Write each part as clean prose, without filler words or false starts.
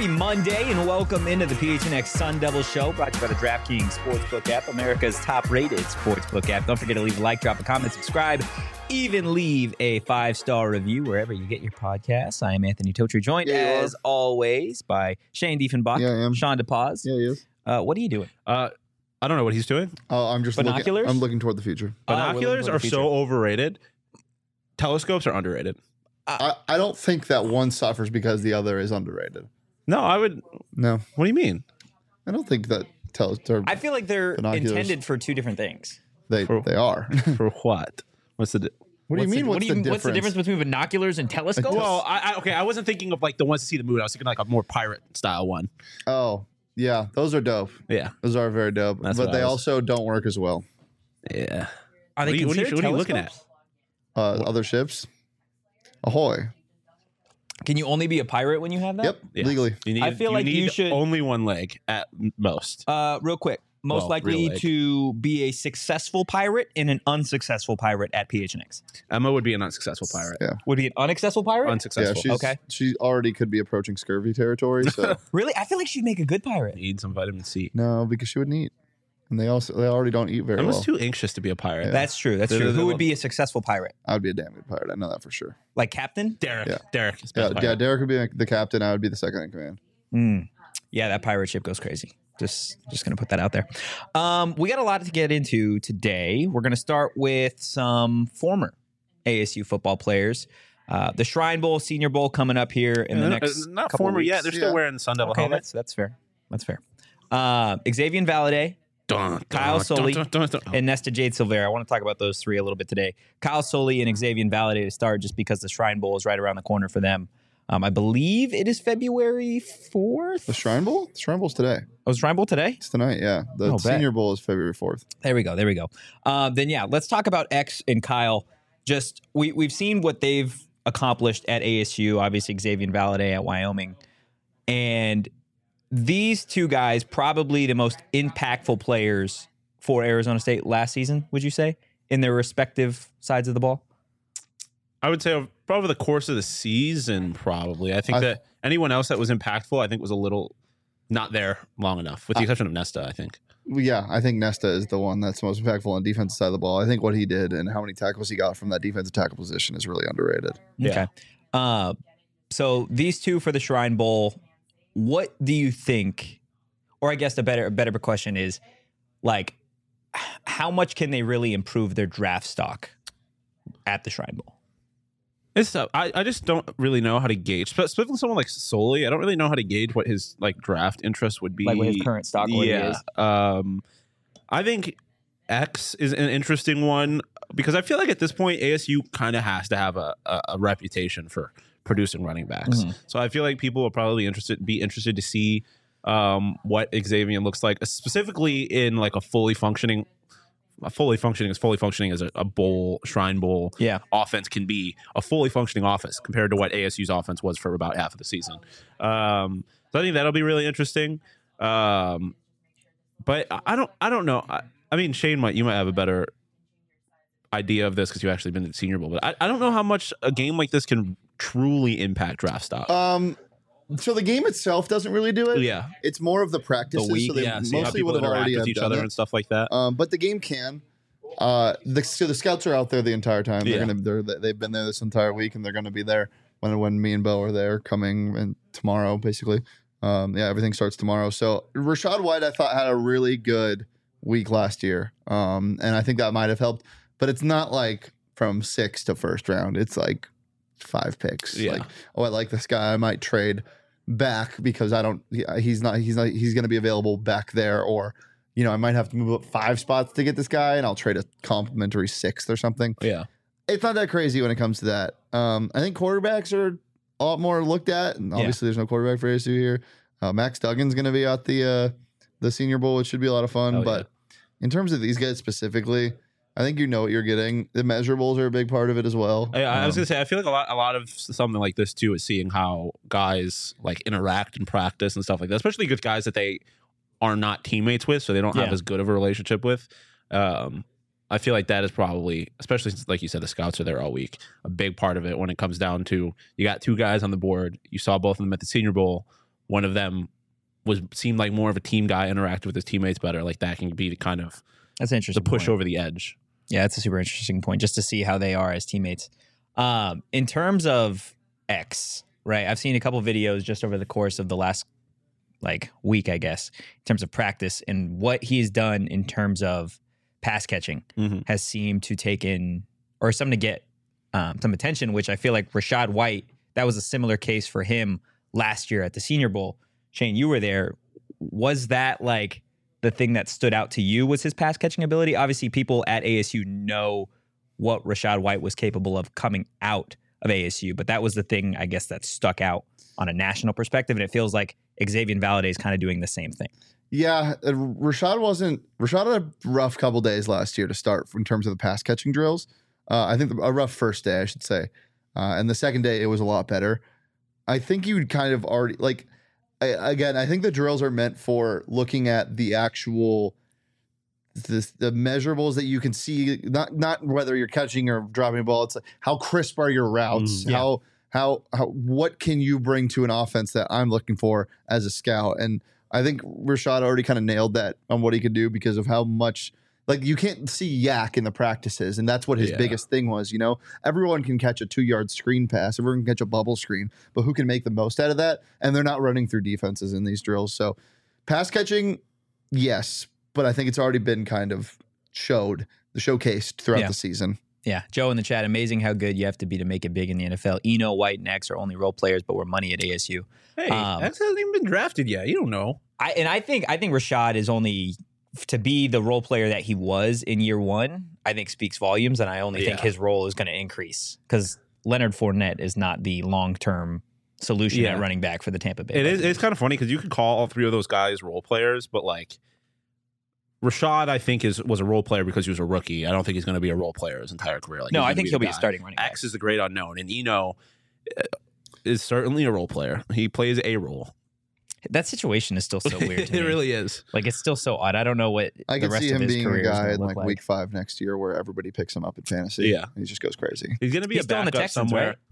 Happy Monday and welcome into the PHNX Sun Devil Show, brought to you by the DraftKings Sportsbook app, America's top-rated sportsbook app. Don't forget to leave a like, drop a comment, subscribe, even leave a 5-star review wherever you get your podcasts. I am Anthony Totri, joined as always by Shane Diefenbach, Sean DePaz. Yeah, he is. What are you doing? I don't know what he's doing. Oh, I'm just Binoculars? I'm looking toward the future. Binoculars are so overrated. Telescopes are underrated. I don't think that one suffers because the other is underrated. No, I would. No. What do you mean? I don't think that I feel like they're binoculars. intended for two different things. They are. For what? What's the? What do you mean? What's the difference? What's the difference between binoculars and telescopes? Well, I wasn't thinking of like the ones to see the moon. I was thinking like a more pirate style one. Oh, yeah. Those are dope. Yeah, those are very dope. That's but they also don't work as well. Yeah. Are they what are you looking at? Other ships. Ahoy. Can you only be a pirate when you have that? Yep, legally. I feel like you should only one leg at most. Real quick. Most likely to be a successful pirate and an unsuccessful pirate at PHNX. Emma would be an unsuccessful pirate. Yeah. Would be an unsuccessful pirate? Unsuccessful. Yeah, she already could be approaching scurvy territory. So Really? I feel like she'd make a good pirate. Need some vitamin C. No, because she wouldn't eat. And they already don't eat very well. Emma's too anxious to be a pirate. Yeah. That's true. That's true. Who would be a successful pirate? I would be a damn good pirate. I know that for sure. Like Captain? Derek. Yeah. Derek. Is Yeah, best pirate. Derek would be the captain. I would be the second in command. Yeah, that pirate ship goes crazy. Just going to put that out there. We got a lot to get into today. We're going to start with some former ASU football players. The Shrine Bowl, Senior Bowl coming up here in the next not couple former weeks. yet. They're still wearing the Sun Devil Okay, helmets. that's fair. That's fair. Xavier Valade, Kyle Soley, and Nesta Jade Silvera. I want to talk about those three a little bit today. Kyle Soley and Xavier Valade to start just because the Shrine Bowl is right around the corner for them. I believe it is February 4th. The Shrine Bowl? The Shrine Bowl's today. Oh, is Shrine Bowl today? It's tonight, yeah. The Senior Bowl is February 4th. There we go. Then, yeah, let's talk about X and Kyle. Just we've seen what they've accomplished at ASU, obviously Xavier Valade at Wyoming. And these two guys, probably the most impactful players for Arizona State last season, would you say, in their respective sides of the ball? I would say over the course of the season, probably. I think that anyone else that was impactful, I think, was a little not there long enough, with the exception of Nesta, I think. Yeah, I think Nesta is the one that's most impactful on the defensive side of the ball. I think what he did and how many tackles he got from that defensive tackle position is really underrated. Okay. So these two for the Shrine Bowl, what do you think, or I guess a better question is, like, how much can they really improve their draft stock at the Shrine Bowl? It's tough. I just don't really know how to gauge. Specifically someone like Soley, I don't really know how to gauge what his like draft interest would be. Like what his current stock is? I think X is an interesting one because I feel like at this point ASU kind of has to have a reputation for producing running backs. So I feel like people will probably be interested to see what Xavier looks like, specifically in like a fully functioning as a bowl, Shrine Bowl offense can be, a fully functioning offense compared to what ASU's offense was for about half of the season. So I think that'll be really interesting. But I don't know. I mean, Shane, you might have a better idea of this because you've actually been to the Senior Bowl, but I don't know how much a game like this can truly impact draft stock. So the game itself doesn't really do it. Yeah. It's more of the practices. So they mostly would have already with each other and stuff like that. But the game can. The scouts are out there the entire time. They've been there this entire week, and they're going to be there when me and Bo are there coming and tomorrow, basically. Everything starts tomorrow. So Rachaad White, I thought, had a really good week last year, and I think that might have helped. But it's not like from 6th to first round. It's like 5 picks. Yeah. Like, I like this guy. I might trade back because he's going to be available back there, or I might have to move up 5 spots to get this guy, and I'll trade a complimentary 6th or something. Yeah. It's not that crazy when it comes to that. I think quarterbacks are a lot more looked at, and obviously there's no quarterback for ASU here. Max Duggan's going to be at the Senior Bowl, which should be a lot of fun. But in terms of these guys specifically, I think you know what you're getting. The measurables are a big part of it as well. I was gonna say, I feel like a lot of something like this too is seeing how guys like interact in practice and stuff like that, especially with guys that they are not teammates with, so they don't have as good of a relationship with. I feel like that is probably, especially since, like you said, the scouts are there all week, a big part of it when it comes down to you got 2 guys on the board. You saw both of them at the Senior Bowl. one of them seemed like more of a team guy, interacted with his teammates better. Like that can be the kind of That's an interesting the push point. over the edge. Yeah, that's a super interesting point, just to see how they are as teammates. In terms of X, right? I've seen a couple videos just over the course of the last week, I guess, in terms of practice, and what he's done in terms of pass catching has seemed to take in or something to get some attention, which I feel like Rachaad White, that was a similar case for him last year at the Senior Bowl. Shane, you were there. Was that like the thing that stood out to you was his pass catching ability? Obviously, people at ASU know what Rachaad White was capable of coming out of ASU, but that was the thing, I guess, that stuck out on a national perspective, and it feels like Xavier Valladay is kind of doing the same thing. Yeah, Rachaad had a rough couple days last year to start in terms of the pass catching drills. I think a rough first day, I should say. And the second day, it was a lot better. I think you would kind of already I think the drills are meant for looking at the actual the measurables that you can see, not whether you're catching or dropping a ball. It's like how crisp are your routes? How what can you bring to an offense that I'm looking for as a scout? And I think Rachaad already kind of nailed that on what he could do because of how much. Like, you can't see yak in the practices, and that's what his biggest thing was, you know? Everyone can catch a 2-yard screen pass. Everyone can catch a bubble screen, but who can make the most out of that? And they're not running through defenses in these drills. So pass catching, yes, but I think it's already been kind of showcased throughout the season. Yeah. Joe in the chat, amazing how good you have to be to make it big in the NFL. Eno, White, and X are only role players, but we're money at ASU. Hey, X hasn't even been drafted yet. You don't know. I think Rachaad is only... to be the role player that he was in year one, I think speaks volumes, and I only think his role is going to increase because Leonard Fournette is not the long-term solution at running back for the Tampa Bay. It's kind of funny because you could call all three of those guys role players, but like Rachaad, I think was a role player because he was a rookie. I don't think he's going to be a role player his entire career. Like, no, I think he'll be a starting running back. X is the great unknown, and Eno is certainly a role player. He plays a role. That situation is still so weird to me. It really is. Like, it's still so odd. I don't know what I the can rest see of him his being career a guy is in going to look like. week 5 next year where everybody picks him up in fantasy. Yeah. And he just goes crazy. He's going to be He's a still on the backup Texans, somewhere. right?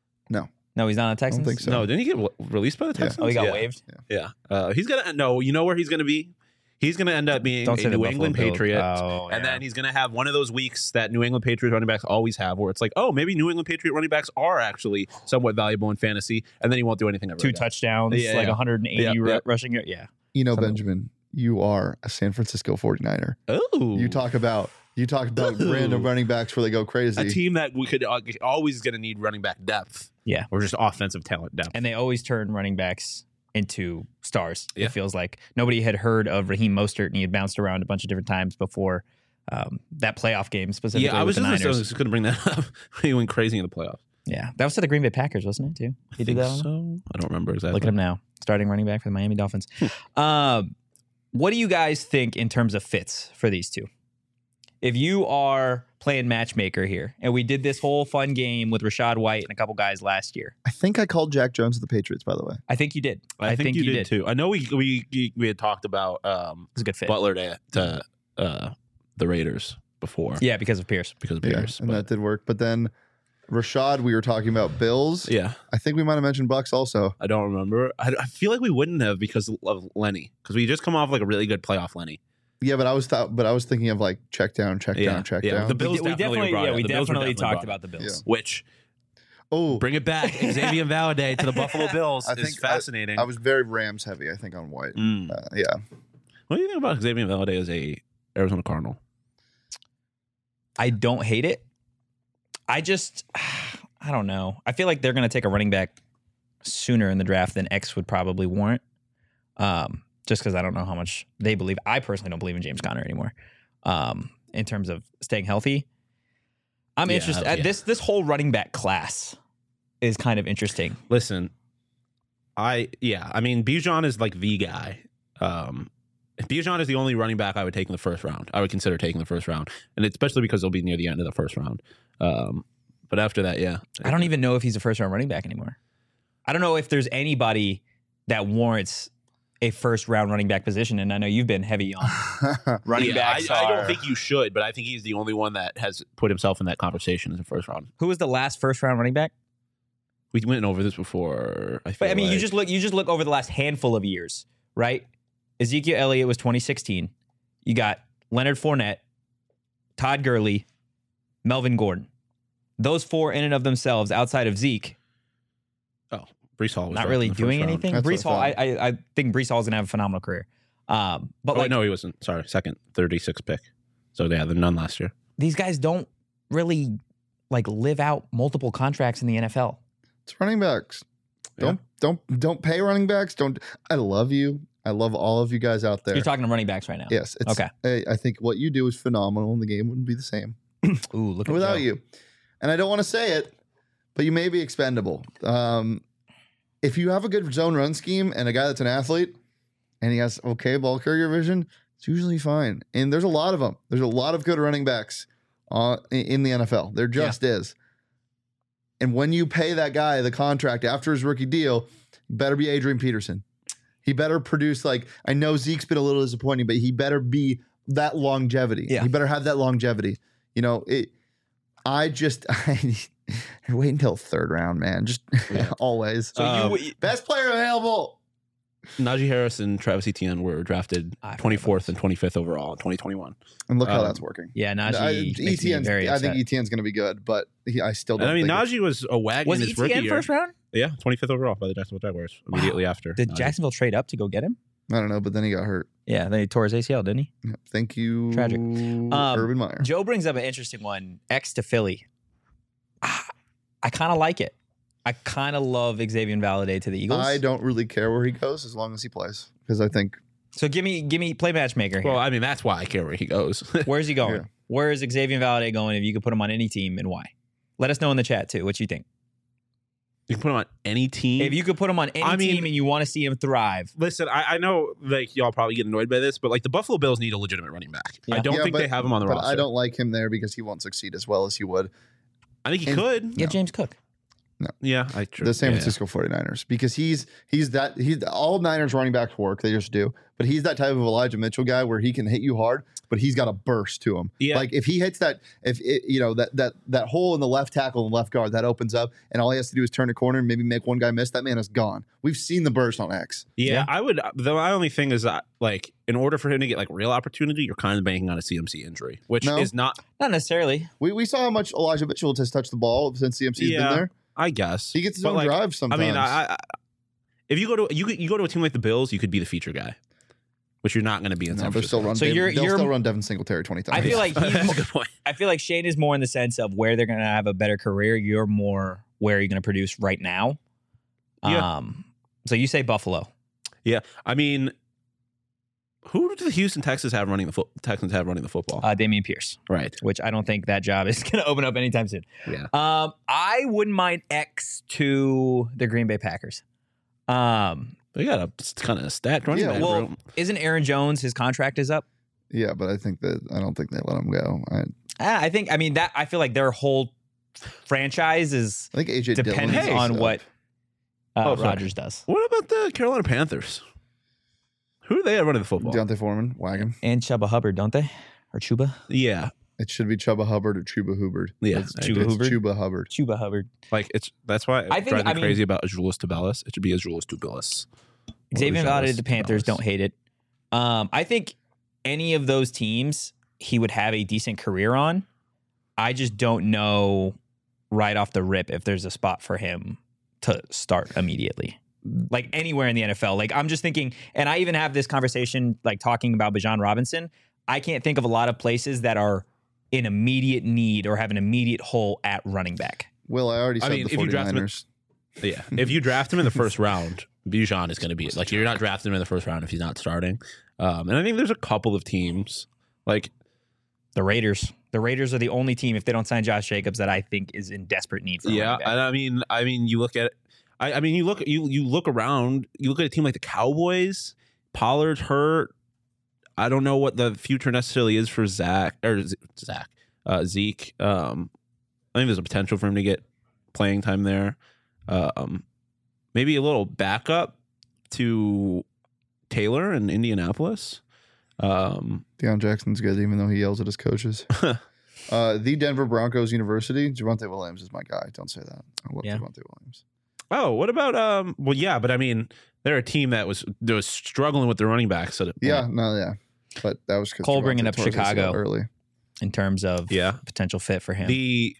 No, he's not on the Texans? I don't think so. No, didn't he get released by the Texans? Oh, he got waived? Yeah. He's going to, no, you know where he's going to be? He's going to end up being a New England Patriot. And then he's going to have one of those weeks that New England Patriots running backs always have where it's like, oh, maybe New England Patriot running backs are actually somewhat valuable in fantasy. And then he won't do anything ever. 2 touchdowns, 180 rushing. Yeah. Benjamin, you are a San Francisco 49er. Oh. You talk about random running backs where they go crazy. A team that we could always going to need running back depth. Yeah. Or just offensive talent depth. And they always turn running backs into stars. Yeah. It feels like nobody had heard of Raheem Mostert, and he had bounced around a bunch of different times before that playoff game specifically. Yeah, I was with the Niners. just going to bring that up. He went crazy in the playoffs. Yeah, that was to the Green Bay Packers, wasn't it? Too. He did that. So I don't remember exactly. Look at him now, starting running back for the Miami Dolphins. What do you guys think in terms of fits for these two? If you are playing matchmaker here, and we did this whole fun game with Rachaad White and a couple guys last year. I think I called Jack Jones of the Patriots, by the way. I think you did. I think you did too. I know we had talked about it's a good fit. Butler to the Raiders before. Yeah, because of Pierce. And that did work. But then Rachaad, we were talking about Bills. Yeah. I think we might have mentioned Bucks also. I don't remember. I feel like we wouldn't have because of Lenny. Because we just come off like a really good playoff Lenny. Yeah, but I was thinking of like check down. The Bills we definitely talked about the Bills. Which Oh, bring it back. Xavier Valladay to the Buffalo Bills is fascinating. I was very Rams heavy, I think, on White. Yeah. What do you think about Xavier Valladay as a Arizona Cardinal? I don't hate it. I don't know. I feel like they're going to take a running back sooner in the draft than X would probably warrant. Just because I don't know how much they believe. I personally don't believe in James Conner anymore. In terms of staying healthy, I'm interested. This whole running back class is kind of interesting. Listen, I mean, Bijan is like the guy. If Bijan is the only running back I would take in the first round, I would consider taking the first round, and especially because they'll be near the end of the first round. But after that, I don't even know if he's a first round running back anymore. I don't know if there's anybody that warrants a first round running back position, and I know you've been heavy on running backs. I don't think you should, but I think he's the only one that has put himself in that conversation as a first round. Who was the last first round running back? We went over this before. But I mean, you just look over the last handful of years, right? Ezekiel Elliott was 2016. You got Leonard Fournette, Todd Gurley, Melvin Gordon. Those four in and of themselves, outside of Zeke, Brees Hall was not really doing anything. That's Brees Hall, what I think Brees Hall is gonna have a phenomenal career. But no, he wasn't. Sorry, second, 36 pick. So yeah, the none last year. These guys don't really live out multiple contracts in the NFL. It's running backs. Don't pay running backs. I love you. I love all of you guys out there. You're talking to running backs right now. Yes. It's, okay. I think what you do is phenomenal, and the game wouldn't be the same Ooh, look at without Joe. you. And I don't want to say it, but you may be expendable. If you have a good zone run scheme and a guy that's an athlete and he has okay ball carrier vision, it's usually fine. And there's a lot of them. There's a lot of good running backs in the NFL. There just is. And when you pay that guy the contract after his rookie deal, better be Adrian Peterson. He better produce, I know Zeke's been a little disappointing, but he better be that longevity. Yeah. He better have that longevity. I wait until third round, man. Just always. So Best player available. Najee Harris and Travis Etienne were drafted 24th and 25th overall in 2021. And look how that's working. Yeah, Najee. makes me very I think upset. Etienne's going to be good, but I still don't And I mean, think Najee was a wagon Was his rookie ETN year. first round? Yeah, 25th overall by the Jacksonville Jaguars immediately after. Did Najee. Jacksonville trade up to go get him? I don't know, but then he got hurt. Yeah, then he tore his ACL, didn't he? Yeah. Thank you, Tragic. Urban Meyer. Joe brings up an interesting one. X to Philly. I kind of like it. I kind of love Xavier Valade to the Eagles. I don't really care where he goes as long as he plays, because I think So give me play matchmaker here. Well, I mean, that's why I care where he goes. Where's he going? Yeah. Where is Xavier Valade going if you could put him on any team and why? Let us know in the chat too. What you think? You can put him on any team. If you could put him on any team and you want to see him thrive. Listen, I know y'all probably get annoyed by this, but the Buffalo Bills need a legitimate running back. Yeah. I don't think they have him on the but roster. I don't like him there because he won't succeed as well as he would. I think he could. You have James Cook. Yeah, The San Francisco 49ers, because he's all Niners running backs work, they just do, but he's that type of Elijah Mitchell guy where he can hit you hard, but he's got a burst to him. Yeah. Like if he hits that, that hole in the left tackle and left guard that opens up, and all he has to do is turn a corner and maybe make one guy miss, that man is gone. We've seen the burst on X. Yeah, I would. My only thing is that, in order for him to get real opportunity, you're kind of banking on a CMC injury, which is not necessarily. We saw how much Elijah Mitchell has touched the ball since CMC's been there. I guess He gets his own drive sometimes. I mean, if you go to a team like the Bills, you could be the feature guy, which you're not going to be in San they'll Francisco. still run Devin Singletary 20 times. I feel like That's a good point. I feel like Shane is more in the sense of where they're going to have a better career. You're more where you're going to produce right now. Yeah. So you say Buffalo. Yeah, I mean, who do the Houston Texans have running the football? Damian Pierce, Right. which I don't think that job is going to open up anytime soon. Yeah. I wouldn't mind X to the Green Bay Packers. They got a kind of stacked running back Well, room. isn't Aaron Jones, his contract is up? Yeah, but I don't think they let him go. I feel like their whole franchise is I think AJ depends Dillon on what sorry. Rodgers does. What about the Carolina Panthers? Who do they have running the football? Deontay Foreman, wagon. And Chuba Hubbard, don't they? Or Chuba? Yeah. It should be Chuba Hubbard or Chuba Hubbard. Yeah, It's Chuba Hubbard? Chuba Hubbard. Chuba Hubbard. That's why I it think- drives me crazy about Azuolas Tubelis. It should be Azuolas Tubelis. Xavier Valade, the Panthers, don't hate it. I think any of those teams he would have a decent career on. I just don't know right off the rip if there's a spot for him to start immediately. Like anywhere in the NFL. Like I'm just thinking, and I even have this conversation talking about Bijan Robinson. I can't think of a lot of places that are in immediate need or have an immediate hole at running back. Will, I already said the if you draft him, 49ers. yeah, if you draft him in the first round, Bijan is going to be you're not drafting him in the first round if he's not starting. And I think there's a couple of teams The Raiders. The Raiders are the only team, if they don't sign Josh Jacobs, that I think is in desperate need for a running back. and I mean, you look at. You look around. You look at a team like the Cowboys. Pollard's hurt. I don't know what the future necessarily is for Zeke. Zeke. I think there's a potential for him to get playing time there. Maybe a little backup to Taylor in Indianapolis. Deion Jackson's good, even though he yells at his coaches. The Denver Broncos University. Javonte Williams is my guy. Don't say that. I love Javonte Williams. Oh, what about well, yeah, but I mean, they're a team that was struggling with the running backs at it. Yeah, but that was because Cole bringing up Chicago early in terms of potential fit for him. The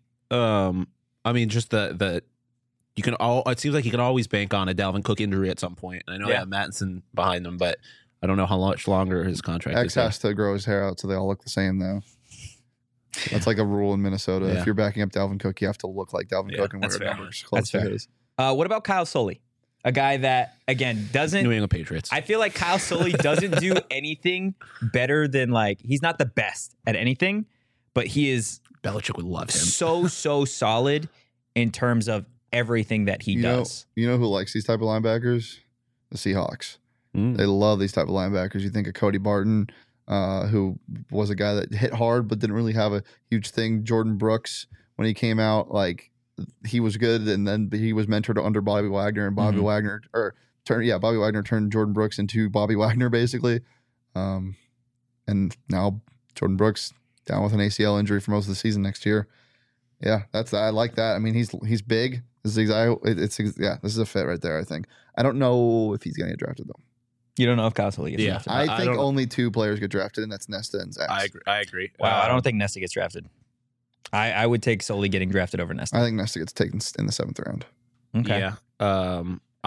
I mean, just the you can all. It seems like you can always bank on a Dalvin Cook injury at some point. And I know they have Mattinson behind them, but I don't know how much longer his contract is. X has to grow his hair out so they all look the same, though. That's like a rule in Minnesota. Yeah. If you're backing up Dalvin Cook, you have to look like Dalvin Cook and wear numbers close to his. What about Kyle Sully? A guy that, again, doesn't... New England Patriots. I feel like Kyle Sully doesn't do anything better than, like... He's not the best at anything, but he is... Belichick would love him. So solid in terms of everything that he does. You know who likes these type of linebackers? The Seahawks. They love these type of linebackers. You think of Cody Barton, who was a guy that hit hard but didn't really have a huge thing. Jordan Brooks, when he came out, like he was good, and then he was mentored under Bobby Wagner, and Bobby Wagner turned Jordan Brooks into Bobby Wagner basically. And now Jordan Brooks down with an ACL injury for most of the season next year. Yeah, I like that. I mean, he's big. This is this is a fit right there. I think. I don't know if he's going to get drafted though. You don't know if Kyle Sully gets drafted. I think only 2 players get drafted, and that's Nesta and Zach. I agree. Wow, I don't think Nesta gets drafted. I would take Sully getting drafted over Nesta. I think Nesta gets taken in the 7th round. Okay. Yeah.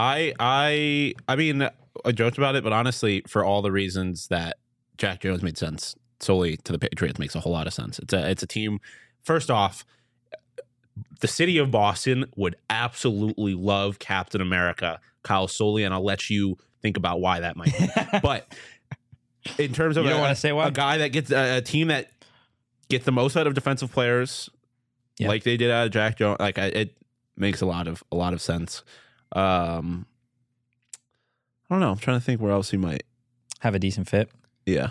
I mean, I joked about it, but honestly, for all the reasons that Jack Jones made sense, Sully to the Patriots makes a whole lot of sense. It's a team. First off, the city of Boston would absolutely love Captain America, Kyle Sully, and I'll let you think about why that might be. But in terms of a guy that gets a team that gets the most out of defensive players, like they did out of Jack Jones, like it makes a lot of sense. I don't know. I'm trying to think where else he might have a decent fit. Yeah.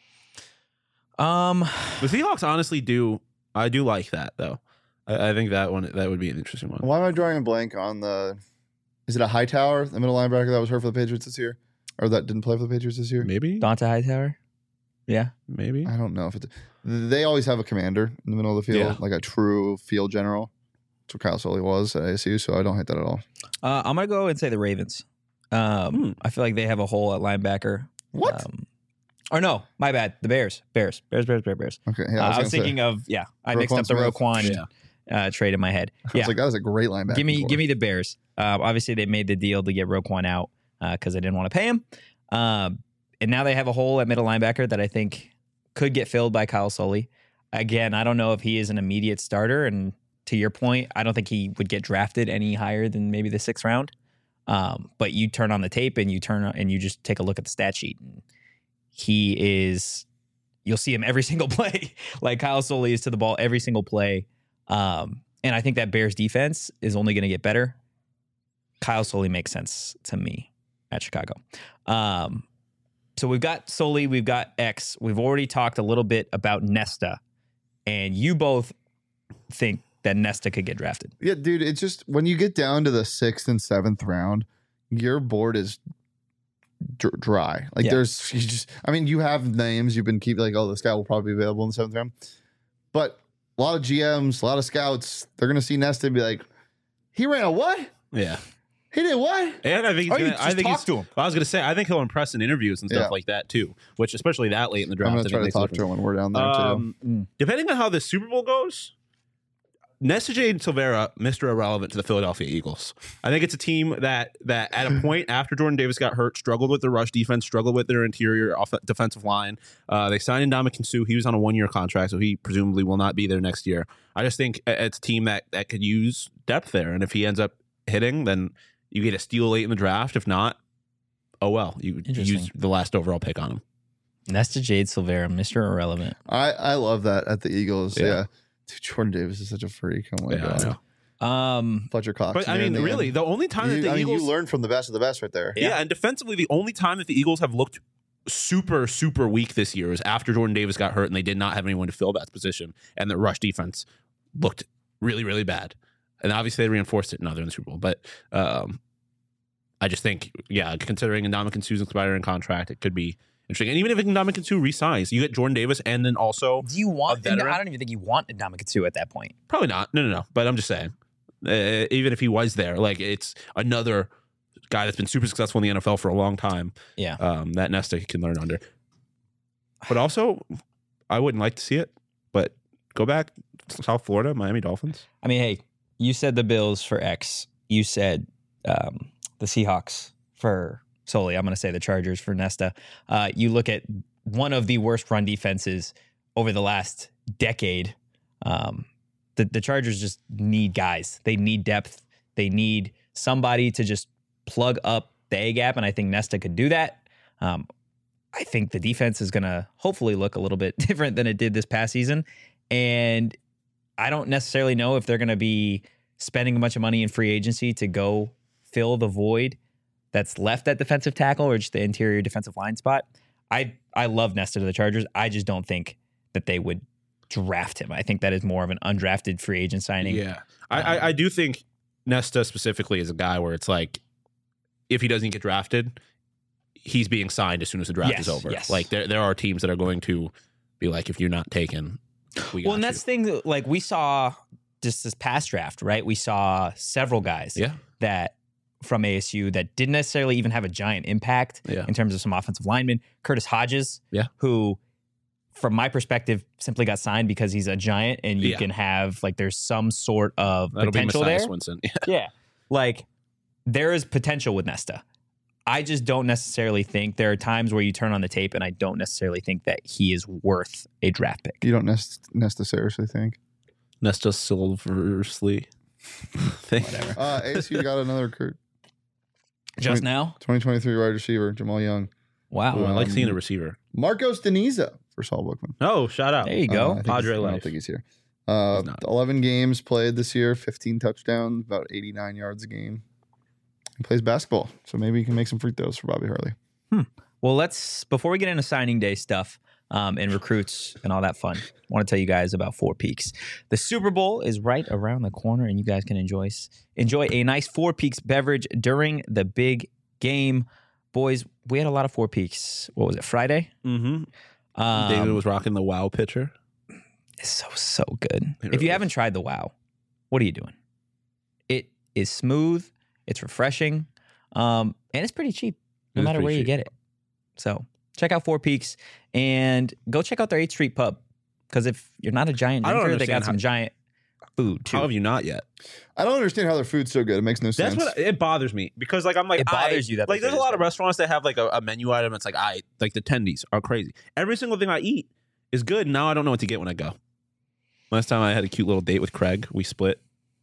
The Seahawks honestly do. I do like that though. I think that would be an interesting one. Why am I drawing a blank on is it a Hightower, the middle linebacker that was hurt for the Patriots this year? Or that didn't play for the Patriots this year? Maybe. Donta Hightower? Yeah. Maybe. I don't know if they always have a commander in the middle of the field, like a true field general. That's what Kyle Sully was at ASU, so I don't hate that at all. I'm going to go and say the Ravens. I feel like they have a hole at linebacker. What? Or no, my bad. The Bears. Okay. Yeah, I was thinking of, I mixed up the Roquan trade in my head. I was like, that was a great linebacker. Give me the Bears. Obviously, they made the deal to get Roquan out because they didn't want to pay him. And now they have a hole at middle linebacker that I think could get filled by Kyle Sully. Again, I don't know if he is an immediate starter. And to your point, I don't think he would get drafted any higher than maybe the 6th round. But you turn on the tape and you just take a look at the stat sheet. And you'll see him every single play. Like Kyle Sully is to the ball every single play. And I think that Bears defense is only going to get better. Kyle Sully makes sense to me at Chicago. So we've got Sully, we've got X. We've already talked a little bit about Nesta, and you both think that Nesta could get drafted. Yeah, dude, it's just when you get down to the 6th and 7th round, your board is dry. Like you have names you've been keeping, like, oh, this guy will probably be available in the 7th round. But a lot of GMs, a lot of scouts, they're going to see Nesta and be like, he ran a what? Yeah. He did what? And I think talk to him. I was going to say, I think he'll impress in interviews and stuff like that too, which especially that late in the draft. I'm going to try to talk to him when we're down there too. Depending on how the Super Bowl goes, Nesta Jade Silvera, Mr. Irrelevant to the Philadelphia Eagles. I think it's a team that at a point after Jordan Davis got hurt, struggled with the rush defense, struggled with their interior defensive line. They signed Ndamukong Suh. He was on a 1-year contract, so he presumably will not be there next year. I just think it's a team that could use depth there, and if he ends up hitting, then you get a steal late in the draft. If not, oh well, you use the last overall pick on him. Nesta Jade Silvera, Mr. Irrelevant. I love that at the Eagles. Yeah. Dude, Jordan Davis is such a freak. Oh my god. Fletcher Cox. But I mean, really, the only time that the Eagles, you learn from the best of the best right there. Yeah, and defensively, the only time that the Eagles have looked super, super weak this year is after Jordan Davis got hurt and they did not have anyone to fill that position, and the rush defense looked really, really bad. And obviously, they reinforced it now they're in the Super Bowl. But I just think, considering Ndamukong Suh's expiring contract, it could be interesting. And even if Ndamukong Suh resigns, you get Jordan Davis and then also do you want? I don't even think you want Ndamukong Suh at that point. Probably not. No. But I'm just saying. even if he was there. Like, it's another guy that's been super successful in the NFL for a long time. Yeah. That Nesta can learn under. But also, I wouldn't like to see it. But go back, South Florida, Miami Dolphins. I mean, hey, you said the Bills for X. You said the Seahawks for Sully. I'm going to say the Chargers for Nesta. You look at one of the worst run defenses over the last decade. The Chargers just need guys. They need depth. They need somebody to just plug up the A gap, and I think Nesta could do that. I think the defense is going to hopefully look a little bit different than it did this past season, and I don't necessarily know if they're going to be spending a bunch of money in free agency to go fill the void that's left at defensive tackle or just the interior defensive line spot. I love Nesta to the Chargers. I just don't think that they would draft him. I think that is more of an undrafted free agent signing. Yeah. I do think Nesta specifically is a guy where it's like, if he doesn't get drafted, he's being signed as soon as the draft is over. Yes. Like there are teams that are going to be like, if you're not taken, we got and that's the thing that, like, we saw just this past draft, right? We saw several guys that from ASU that didn't necessarily even have a giant impact in terms of some offensive linemen. Curtis Hodges, who, from my perspective, simply got signed because he's a giant and you can have, like, there's some sort of potential there. Swinson. Like, there is potential with Nesta. I just don't necessarily think there are times where you turn on the tape and I don't necessarily think that he is worth a draft pick. You don't Nesta seriously think? Nesta Silversley. Whatever. ASU got another recruit. Just now? 2023 wide receiver, Jamal Young. Wow. Ooh, I like seeing a receiver. Marcos Deniza for Saul Bookman. Oh, shout out. There you go. Padre I don't life. think he's here. He's not. 11 games played this year, 15 touchdowns, about 89 yards a game. He plays basketball, so maybe he can make some free throws for Bobby Hurley. Well, before we get into signing day stuff and recruits and all that fun, I want to tell you guys about Four Peaks. The Super Bowl is right around the corner, and you guys can enjoy a nice Four Peaks beverage during the big game. Boys, we had a lot of Four Peaks. What was it, Friday? Mm-hmm. David was rocking the Wow pitcher. It's so good. It If you really haven't tried the Wow, what are you doing? It is smooth. It's refreshing. And it's pretty cheap, no matter where you get it. So check out Four Peaks and go check out their 8th Street Pub. Because if you're not a giant drinker, they got some giant food too. How have you not yet? I don't understand how their food's so good. It makes no sense. That's what it bothers me, because like I'm like, It bothers you that like the there's a lot of restaurants that have like a menu item that's like, like the tendies are crazy. Every single thing I eat is good. Now I don't know what to get when I go. Last time I had a cute little date with Craig. We split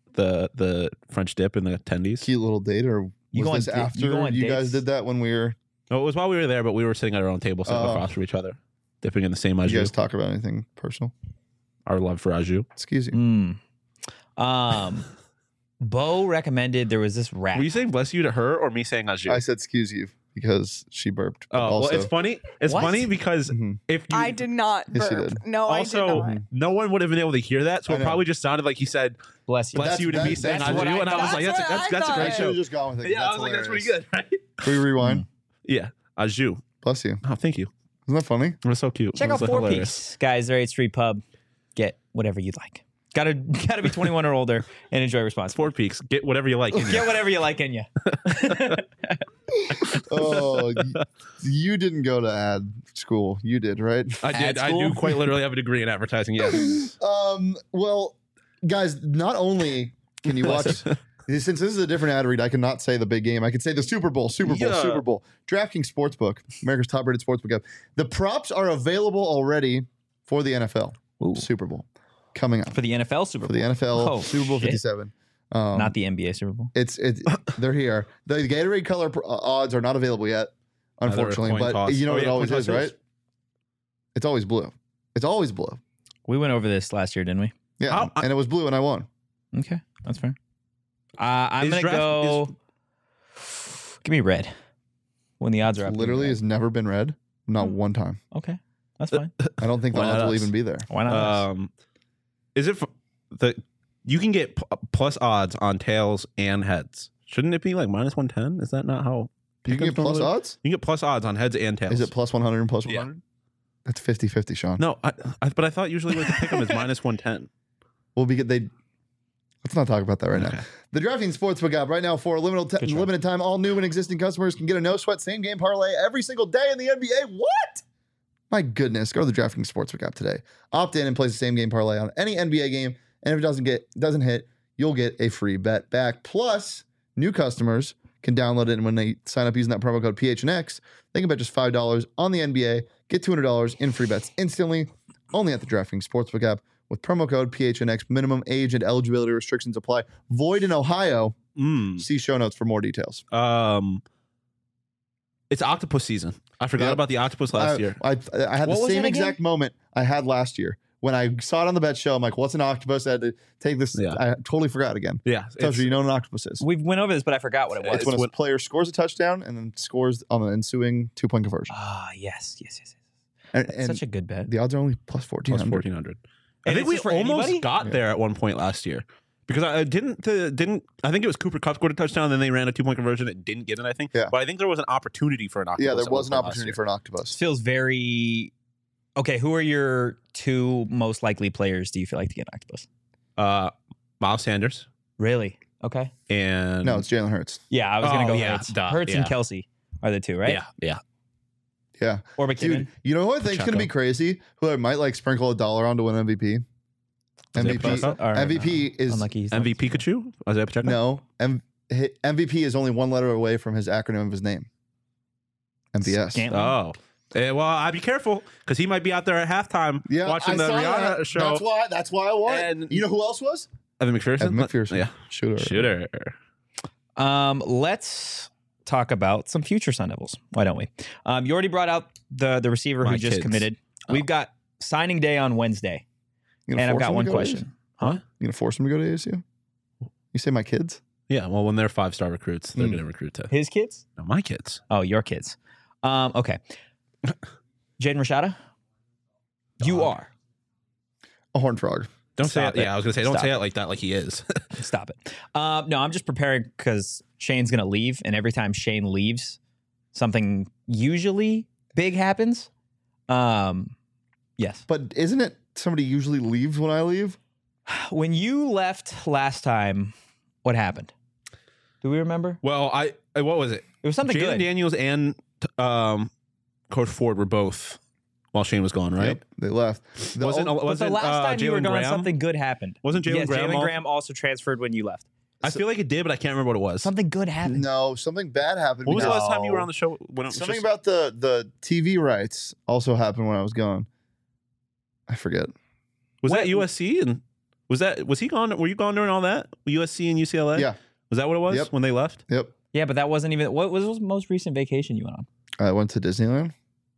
the French dip and the tendies. Cute little date, or was this after you guys did that when we were? No, it was while we were there, but we were sitting at our own table, sitting across from each other, dipping in the same au jus. You guys talk about anything personal? Our love for au jus. Excuse you. Bo recommended there was this wrap. Were you saying bless you to her or me saying au jus? I said excuse you because she burped. Oh, also, well, it's funny. It's What? funny because if you, I did not Yes, you burp. did. No, also, I did not. no one would have been able to hear that, so I it know. probably just sounded like he said Bless you. bless you to me that's saying au what jus, I and I was like, thought. that's a That's great what I I should show. have just gone with it. Yeah, I was like, that's pretty good, right? Can we rewind? Yeah, au jus. Bless you. Oh, thank you. Isn't that funny? It was so cute. Check It out was Four hilarious. Peaks, guys. Their 8th Street Pub. Get whatever you'd like. Gotta be 21 or older and enjoy responsibly. Four Peaks. Get whatever you like. Get whatever you like in you. Oh, you didn't go to ad school. You did, right? I did. Ad I school? do quite literally have a degree in advertising. Yes. Well, guys, not only can you watch, since this is a different ad read, I cannot say the big game. I can say the Super Bowl, Yeah. Super Bowl. DraftKings Sportsbook, America's top-rated sportsbook app. The props are available already for the NFL Ooh. Super Bowl coming up. For the NFL Super For Bowl. the NFL Oh, Super Bowl shit. 57. Not the NBA Super Bowl. It's they're here. The Gatorade color odds are not available yet, unfortunately. coin But toss. you know Oh, what yeah, it always coin is, toss right? is. It's always blue. It's always blue. We went over this last year, didn't we? Yeah, and it was blue, and I won. Okay, that's fair. I'm Is gonna draft- go. Give me red when the odds are up. give me Literally red. has never been red, not one time. Okay, that's fine. I don't think the Why odds not will us? even be there. Why not? us? Is it you can get plus odds on tails and heads? Shouldn't it be like minus 110? Is that not how You can get plus odds? You can get plus odds on heads and tails. Is it plus 100 and plus Yeah. 100? That's 50-50, Sean. No, but I thought usually with the pick 'em is minus 110. Well, because they Let's not talk about that right Okay. now. The DraftKings Sportsbook app right now for a limited time, all new and existing customers can get a no-sweat same-game parlay every single day in the NBA. What? My goodness. Go to the DraftKings Sportsbook app today. Opt in and place the same-game parlay on any NBA game, and if it doesn't hit, you'll get a free bet back. Plus, new customers can download it, and when they sign up using that promo code PHNX, they can bet just $5 on the NBA, get $200 in free bets instantly, only at the DraftKings Sportsbook app. With promo code PHNX, minimum age and eligibility restrictions apply. Void in Ohio. See show notes for more details. It's octopus season. I forgot about the octopus last year. I had the same exact moment I had last year. When I saw it on the bet show, I'm like, what's an octopus? I had to take this. Yeah. I totally forgot again. Yeah. Tells you know what an octopus is. We went over this, but I forgot what it was. It's when a player scores a touchdown and then scores on the ensuing 2-point conversion. Ah, yes. And Such a good bet. the odds are only plus Plus 1,400. 1,400. I And think is we it for almost anybody? got there at one point last year. Because I didn't. I think it was Cooper Kupp scored a touchdown, then they ran a 2-point conversion. It didn't get it, I think. Yeah. But I think there was an opportunity for an octopus. Yeah, there at was an one point last opportunity year. for an octopus. Feels very okay. Who are your 2 most likely players? Do you feel like to get an octopus? Miles Sanders Really? Okay. and No, it's Jalen Hurts. Yeah, I was gonna Oh, go yeah, Hurts. duh, Hurts and yeah. Kelsey are the 2, right? Yeah. Yeah. Or McKinnon. Dude, you know who I think is going to be crazy? Who I might like sprinkle $1 on to win MVP? Isaiah Pacheco? MVP is unlucky. He's not- MVP Pikachu? Isaiah Pacheco? no. MVP is only one letter away from his acronym of his name. MVS. Scantling? Oh. Well, I'd be careful because he might be out there at halftime watching the saw Rihanna that. show. That's why I won it. And- You know who else was? Evan McPherson? Evan McPherson. Yeah. Shooter. Let's talk about some future Sun Devils. Why don't we? You already brought out the receiver My who just kids. committed. We've got signing day on Wednesday, You gonna and I've force got him to one go to question. ASU? Huh? You gonna force him to go to ASU? You say my kids? Yeah. Well, when they're 5-star recruits, they're Mm. going to recruit to His kids? no, my kids. Oh, your kids. Okay. Jaden Rashada, you are. A horned frog. Don't say Stop it. it. Yeah, I was going to say, don't Stop say it. it like that, like he is. Stop it. No, I'm just preparing because Shane's going to leave. And every time Shane leaves, something usually big happens. Yes. But isn't it somebody usually leaves when I leave? When you left last time, what happened? Do we remember? Well, what was it? It was something Jaden good. Daniels and Coach Ford were both while Shane was gone, right? Yep, they left. The Wasn't ol- But the last time you were Jalen gone, Graham? something good happened. Wasn't Jalen Yes, Graham? Jalen Graham also transferred when you left. I feel like it did, but I can't remember what it was. Something good happened. no, something bad happened. What was the because- last time you were on the show? When it was Something just- about the TV rights also happened when I was gone. I forget. was What- that USC and was he gone? Were you gone during all that? USC and UCLA? Yeah. Was that what it was Yep. when they left? Yep. Yeah, but that wasn't even. What was the most recent vacation you went on? I went to Disneyland.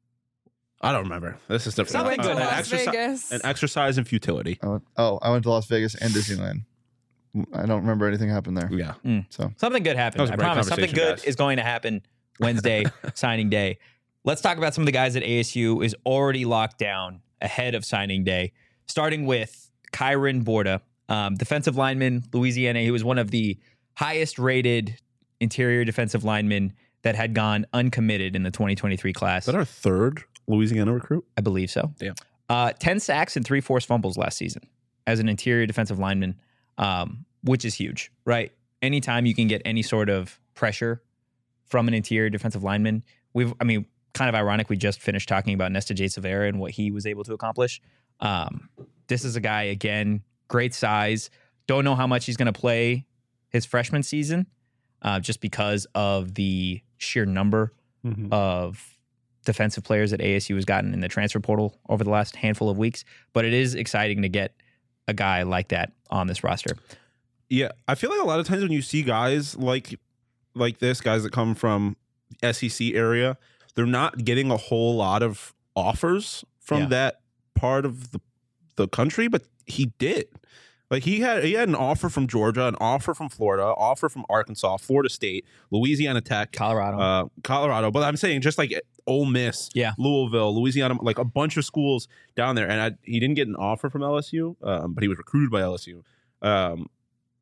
I don't remember. This is different. Something good. An Las Vegas. An exercise in futility. I went to Las Vegas and Disneyland. I don't remember anything happened there. Yeah. Something good That happened. was a I great promise. Something conversation, good guys. is going to happen Wednesday, signing day. Let's talk about some of the guys that ASU is already locked down ahead of signing day, starting with Kyron Borda, defensive lineman, Louisiana. He was one of the highest rated interior defensive linemen that had gone uncommitted in the 2023 class. Is that our third Louisiana recruit? I believe so. Damn. 10 sacks and 3 forced fumbles last season as an interior defensive lineman, which is huge, right? Anytime you can get any sort of pressure from an interior defensive lineman, kind of ironic, we just finished talking about Nesta J. Severa and what he was able to accomplish. This is a guy, again, great size. Don't know how much he's going to play his freshman season just because of the sheer number of defensive players that ASU has gotten in the transfer portal over the last handful of weeks. But it is exciting to get a guy like that on this roster. Yeah, I feel like a lot of times when you see guys like this, guys that come from SEC area, they're not getting a whole lot of offers from that part of the country, but he did. Like he had an offer from Georgia, an offer from Florida, offer from Arkansas, Florida State, Louisiana Tech, Colorado. But I'm saying just like Ole Miss, Louisville, Louisiana, like a bunch of schools down there, and he didn't get an offer from LSU, but he was recruited by LSU.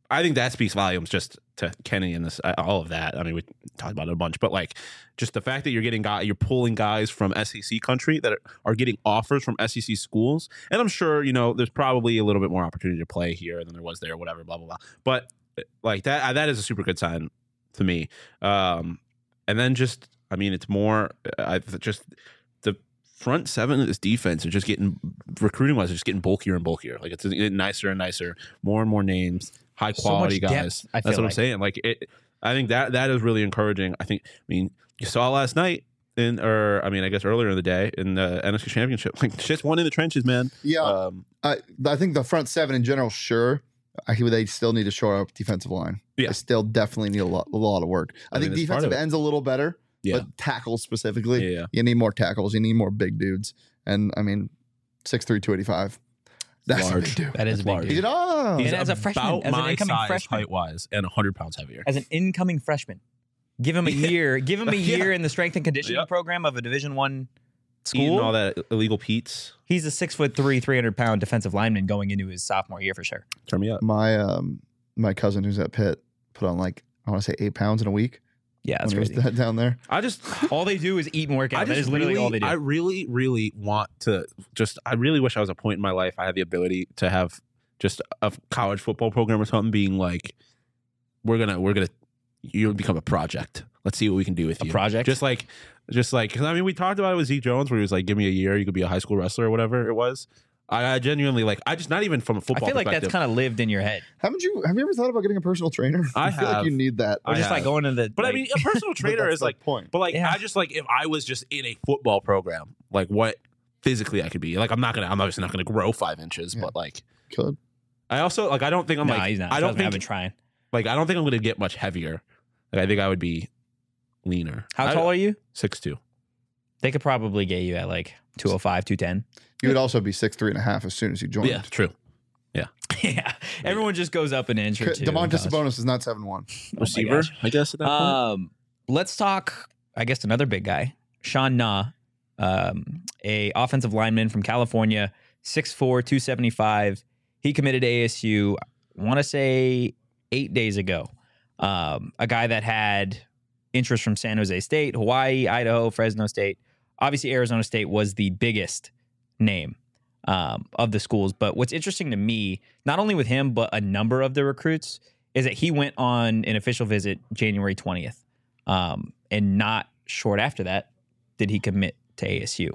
I think that speaks volumes just to Kenny and this all of that. I mean, we talked about it a bunch, but like just the fact that you're pulling guys from SEC country that are getting offers from SEC schools, and I'm sure there's probably a little bit more opportunity to play here than there was there, whatever, blah blah blah. But like that is a super good sign to me. And then just it's more just the front seven of this defense are just getting recruiting wise, just getting bulkier and bulkier. Like it's getting nicer and nicer, more and more names. High quality guys. That's what I'm saying. Like I think that is really encouraging. I mean, you saw last night I guess earlier in the day in the NFC Championship. Like shit's won in the trenches, man. Yeah. I think the front seven in general, sure. They still need to shore up defensive line. Yeah. They still definitely need a lot of work. I think defensive end's a little better, but tackles specifically, you need more tackles. You need more big dudes. And 6'3", 285. That's large. A big dude. That is a big dude. He's as a freshman, as an incoming freshman, height-wise, and 100 pounds heavier. As an incoming freshman, give him a year. Give him a year in the strength and conditioning program of a Division I school. Eating all that illegal Pete's. He's a 6'3", 300-pound defensive lineman going into his sophomore year for sure. Turn me up. My cousin who's at Pitt put on I want to say 8 pounds in a week. Yeah, that's crazy. Down there. All they do is eat and work out. That is literally all they do. I really, really want to I really wish I was a point in my life I had the ability to have just a college football program or something being like, you'll become a project. Let's see what we can do with you. A project? Just like, because we talked about it with Zeke Jones where he was like, give me a year, you could be a high school wrestler or whatever it was. I genuinely not even from a football perspective. I feel like that's kind of lived in your head. Have you ever thought about getting a personal trainer? I feel like you need that. Or just like going to the. But a personal trainer is like point. But like I just like if I was just in a football program, like what physically I could be. Like I'm obviously not gonna grow 5 inches, but like could. I also I don't think I'm he's not. I don't think I've been trying. Like I don't think I'm gonna get much heavier. Like I think I would be leaner. How tall are you? 6'2". They could probably get you at like 205, 210. You would also be 6'3.5" as soon as you joined. Yeah, true. Yeah. Yeah. Everyone just goes up an inch or two. Domantas Sabonis is not 7'1". Receiver, I guess at that point. Let's talk, I guess, another big guy. Sean Na, a offensive lineman from California, 6'4", 275. He committed to ASU, I want to say 8 days ago. A guy that had interest from San Jose State, Hawaii, Idaho, Fresno State. Obviously, Arizona State was the biggest name of the schools. But what's interesting to me, not only with him, but a number of the recruits, is that he went on an official visit January 20th. And not short after that did he commit to ASU.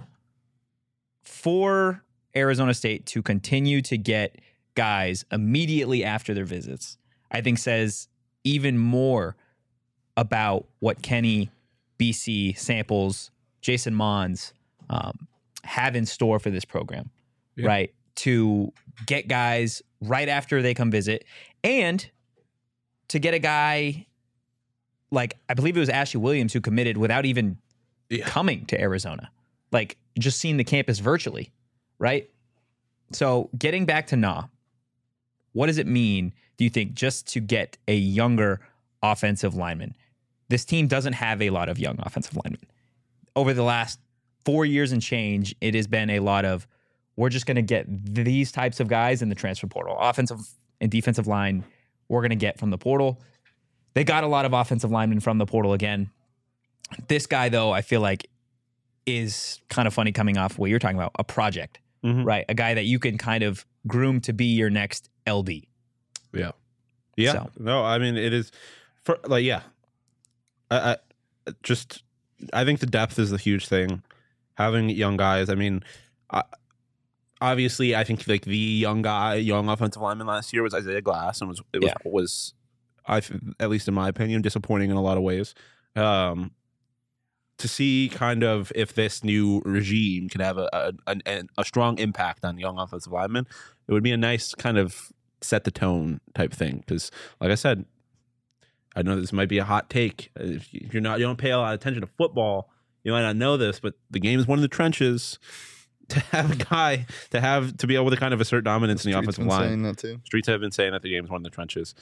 For Arizona State to continue to get guys immediately after their visits, I think says even more about what Kenny, BC, Samples, Jason Mons have in store for this program, right? To get guys right after they come visit and to get a guy like, I believe it was Ashley Williams who committed without even coming to Arizona, like just seeing the campus virtually, right? So getting back to Na, what does it mean, do you think, just to get a younger offensive lineman? This team doesn't have a lot of young offensive linemen. Over the last 4 years and change, it has been a lot of, we're just going to get these types of guys in the transfer portal. Offensive and defensive line, we're going to get from the portal. They got a lot of offensive linemen from the portal again. This guy, though, I feel like is kind of funny coming off what you're talking about, a project, right? A guy that you can kind of groom to be your next LD. Yeah. Yeah. So. No, I mean, it is, I think the depth is the huge thing. Having young guys. I mean, obviously, I think like the young offensive lineman last year was Isaiah Glass, and was at least in my opinion, disappointing in a lot of ways. To see kind of if this new regime can have a strong impact on young offensive linemen, it would be a nice kind of set the tone type thing. Because, like I said, I know this might be a hot take. If you don't pay a lot of attention to football, you might not know this, but the game is one of the trenches. To have a guy to be able to kind of assert dominance in the offensive line. Saying that too. Streets have been saying that the game is one of the trenches.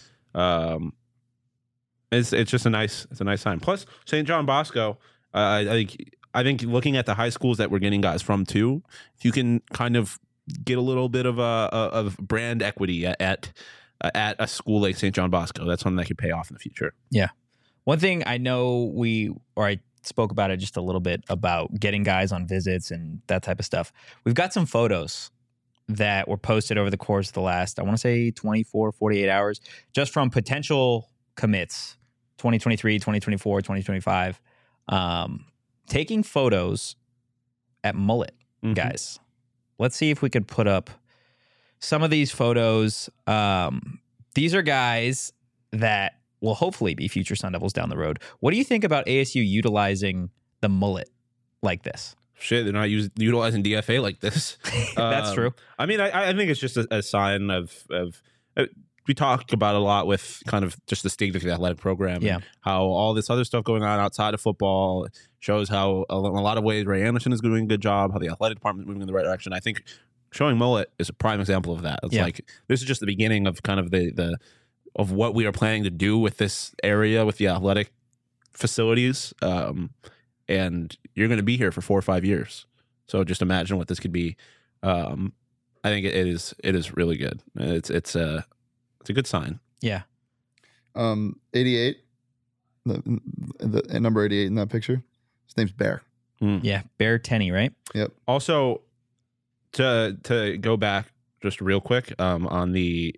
It's just a nice sign. Plus, St. John Bosco, I think looking at the high schools that we're getting guys from too, if you can kind of get a little bit of brand equity at at a school like St. John Bosco. That's something that could pay off in the future. Yeah. One thing I know I spoke about it just a little bit about getting guys on visits and that type of stuff. We've got some photos that were posted over the course of the last, I want to say 24, 48 hours, just from potential commits, 2023, 2024, 2025, taking photos at Mullet, guys. Let's see if we could put up some of these photos. These are guys that will hopefully be future Sun Devils down the road. What do you think about ASU utilizing the mullet like this? Shit, they're not utilizing DFA like this. That's true. I mean, I think it's just a sign of we talk about a lot with kind of just the state of the athletic program. Yeah. And how all this other stuff going on outside of football shows how in a lot of ways Ray Anderson is doing a good job, how the athletic department is moving in the right direction. I think showing mullet is a prime example of that. It's like this is just the beginning of kind of the of what we are planning to do with this area with the athletic facilities. And you're going to be here for 4 or 5 years. So just imagine what this could be. I think it is really good. It's a good sign. Yeah. 88, the number 88 in that picture. His name's Bear. Yeah, Bear Tenney, right? Yep. Also, to go back just real quick on the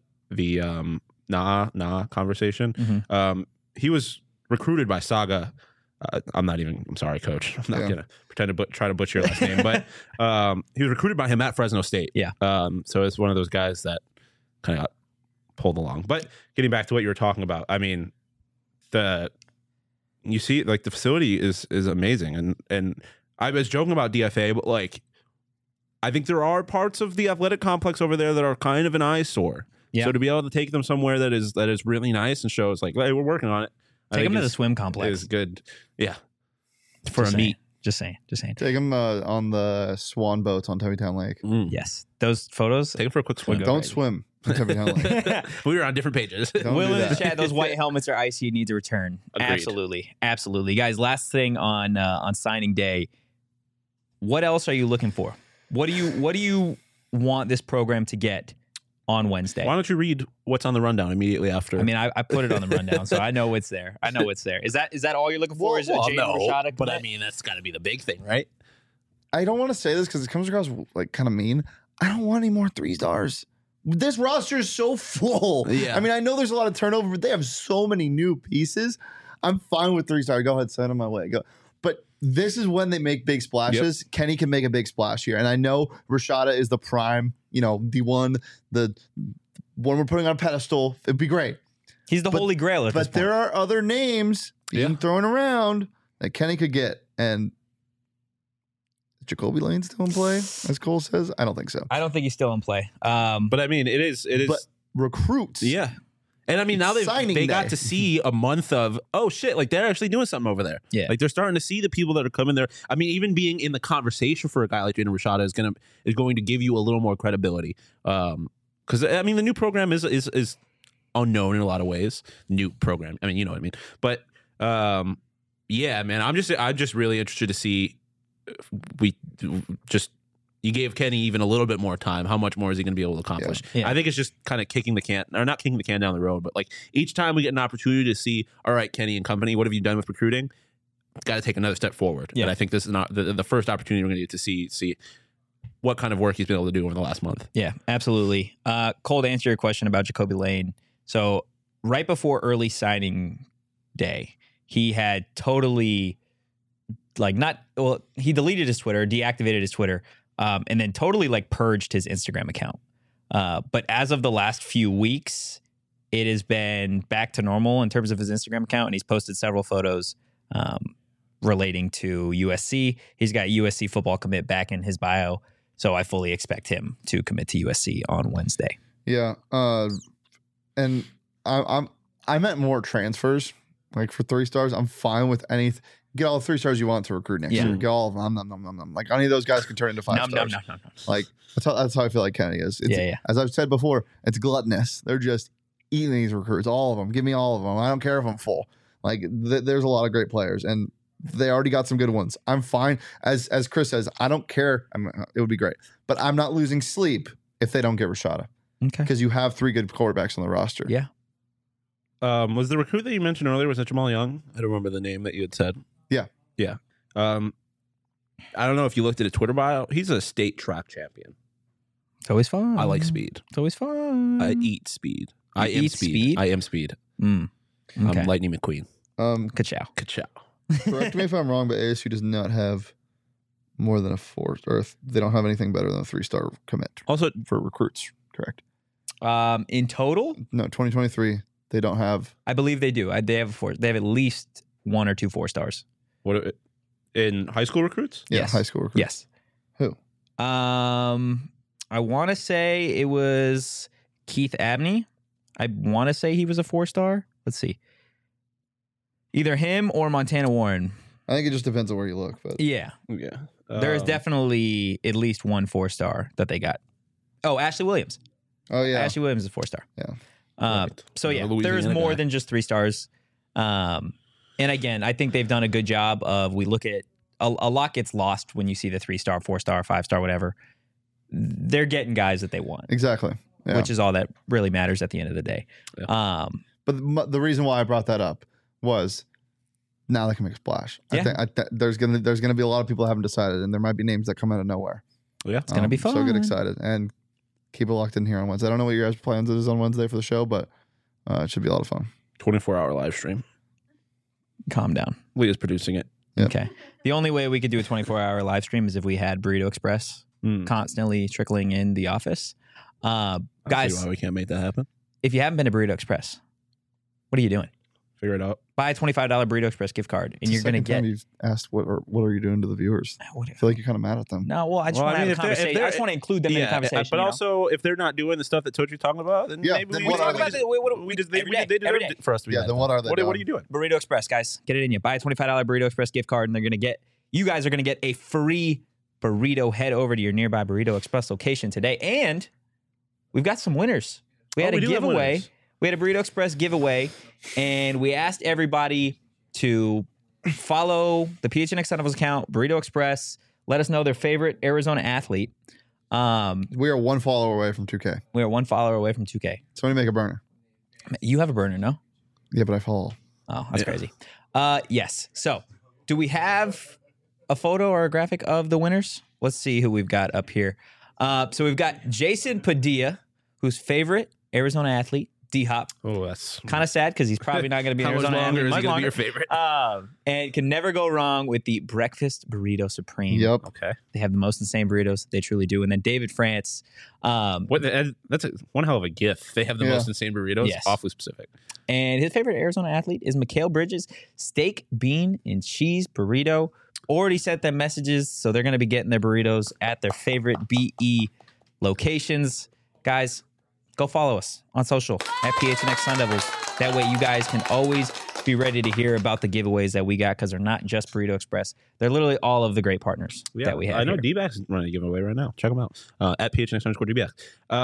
Nah conversation. He was recruited by Saga. I'm sorry, coach. I'm not gonna pretend to try to butcher your last name, but he was recruited by him at Fresno State. Yeah. So it's one of those guys that kind of got pulled along. But getting back to what you were talking about, I mean, you see, like the facility is amazing, and I was joking about DFA, but like I think there are parts of the athletic complex over there that are kind of an eyesore. Yeah. So to be able to take them somewhere that is really nice and shows like, hey, we're working on it. Take them to the swim complex. Is good. Yeah. For a meet. Just saying. Take him on the swan boats on Tevitown Lake. Yes. Those photos. Take them for a quick swim. Don't swim on Tevitown Lake. We were on different pages. Will in the chat, those white helmets are icy. Need to return. Agreed. Absolutely. Guys, last thing on signing day. What else are you looking for? What do you want this program to get on Wednesday? Why don't you read what's on the rundown immediately after? I mean, I put it on the rundown, so I know it's there. Is that all you're looking for? Is Jaden Rashada? But I mean, that's got to be the big thing, right? I don't want to say this because it comes across like kind of mean. I don't want any more 3 stars. This roster is so full. Yeah. I mean, I know there's a lot of turnover, but they have so many new pieces. I'm fine with 3 stars. Go ahead, send them my way. Go. But this is when they make big splashes. Yep. Kenny can make a big splash here. And I know Rashada is the prime, the one we're putting on a pedestal. It'd be great. He's the holy grail at this point. But there are other names being thrown around that Kenny could get. And Jacoby Lane still in play, as Cole says? I don't think so. I don't think he's still in play. But I mean, it is. But recruits. Yeah. And I mean, now they got to see a month of, oh shit, like they're actually doing something over there. Yeah. Like they're starting to see the people that are coming there. I mean, even being in the conversation for a guy like Jaden Rashada is going to give you a little more credibility. Because I mean, the new program is unknown in a lot of ways. New program. I mean, you know what I mean. But yeah, man, I'm just really interested to see you gave Kenny even a little bit more time. How much more is he going to be able to accomplish? Yeah. I think it's just kind of not kicking the can down the road, but like each time we get an opportunity to see, all right, Kenny and company, what have you done with recruiting? Got to take another step forward. Yeah. And I think this is not the first opportunity we're going to get to see what kind of work he's been able to do over the last month. Yeah, absolutely. Cole, to answer your question about Jacoby Lane. So right before early signing day, he had totally he deleted his Twitter, deactivated his Twitter, and then totally purged his Instagram account. But as of the last few weeks, it has been back to normal in terms of his Instagram account, and he's posted several photos relating to USC. He's got USC football commit back in his bio, so I fully expect him to commit to USC on Wednesday. Yeah, and I meant more transfers. Like for 3 stars, I'm fine with anything. Get all the 3 stars you want to recruit next year. Get all of them. Like any of those guys can turn into 5 stars. No. Like that's how I feel like Kenny is. It's, as I've said before, it's gluttonous. They're just eating these recruits, all of them. Give me all of them. I don't care if I'm full. Like there's a lot of great players, and they already got some good ones. I'm fine. As Chris says, I don't care. It would be great, but I'm not losing sleep if they don't get Rashada. Okay. because you have 3 good quarterbacks on the roster. Yeah. Was the recruit that you mentioned earlier, was that Jamal Young? I don't remember the name that you had said. Yeah. Yeah. I don't know if you looked at his Twitter bio. He's a state track champion. It's always fun. I like speed. It's always fun. I eat speed. I You am eat speed. speed? I am speed. Okay. I'm Lightning McQueen. Ka-chow. Ka-chow. Correct me if I'm wrong, but ASU does not have more than a 4, or they don't have anything better than a 3-star commit Also, for recruits. Correct. In total, No, 2023 they don't have. I believe they do. They have 4. They have at least 1 or 2 4-stars. what in high school recruits? Yeah, Yes. high school recruits. Yes. Who? I want to say it was Keith Abney. I want to say he was a 4-star. Let's see. Either him or Montana Warren. I think it just depends on where you look, but Yeah. Yeah. There is definitely at least 1 4-star that they got. Oh, Ashley Williams. oh yeah, Ashley Williams is a 4-star. Yeah. Right. So yeah, Louisiana there's more guy. than just 3 stars. And again, I think they've done a good job of, we look at, a lot gets lost when you see the 3-star, 4-star, 5-star, whatever. They're getting guys that they want, exactly. Yeah. which is all that really matters at the end of the day. Yeah. But the reason why I brought that up was now they can make a splash. Yeah. I think there's gonna be a lot of people who haven't decided, and there might be names that come out of nowhere. Yeah. It's gonna be fun. So get excited and keep it locked in here on Wednesday. I don't know what your guys' plans is on Wednesday for the show, but it should be a lot of fun. 24-hour live stream. Calm down. Leah's producing it. Yep. Okay. The only way we could do a 24-hour live stream is if we had Burrito Express constantly trickling in the office. I see Guys, why we can't make that happen. if you haven't been to Burrito Express, what are you doing? Figure it out. Buy a $25 Burrito Express gift card, and It's you're the going to second time get. you've asked what are you doing to the viewers? I feel like you're kind of mad at them. No, well, I just Well, want to I mean, have a if they're- if conversation. I they're- just want to include them in the conversation. But you know? also, if they're not doing the stuff that Tochi's talking about, then Yeah, maybe then we what talk are they about just- it. We just they every day, deserve every day. it for us to be. Yeah, nice then what to are them. they What are doing? you doing? Burrito Express, guys, get it in you. Buy a $25 Burrito Express gift card, and you guys are going to get a free burrito. Head over to your nearby Burrito Express location today, and we've got some winners. We had a do have giveaway. winners. We had a Burrito Express giveaway, and we asked everybody to follow the PHNX Sun Devils account, Burrito Express. Let us know their favorite Arizona athlete. We are 1 follower away from 2K. We are 1 follower away from 2K. Somebody make a burner. You have a burner, no? Yeah, but I follow. Oh, that's Yeah. crazy. Yes. So, do we have a photo or a graphic of the winners? Let's see who we've got up here. So we've got Jason Padilla, whose favorite Arizona athlete, D-Hop. Oh, that's Kind of sad because he's probably not going to be an how much Arizona longer athlete. is much he going to be longer. your favorite? And can never go wrong with the Breakfast Burrito Supreme. Yep. Okay. They have the most insane burritos. They truly do. And then David France. That's one hell of a gift. They have the Yeah. most insane burritos. Yes. Awfully specific. And his favorite Arizona athlete is Mikhail Bridges, steak, bean, and cheese burrito. Already sent them messages, so they're going to be getting their burritos at their favorite BE locations. Guys, go follow us on social at PHNX Sun Devils. That way you guys can always be ready to hear about the giveaways that we got, because they're not just Burrito Express. They're literally all of the great partners that we have I know here. D-Backs is running a giveaway right now. Check them out. At PHNX_DBX.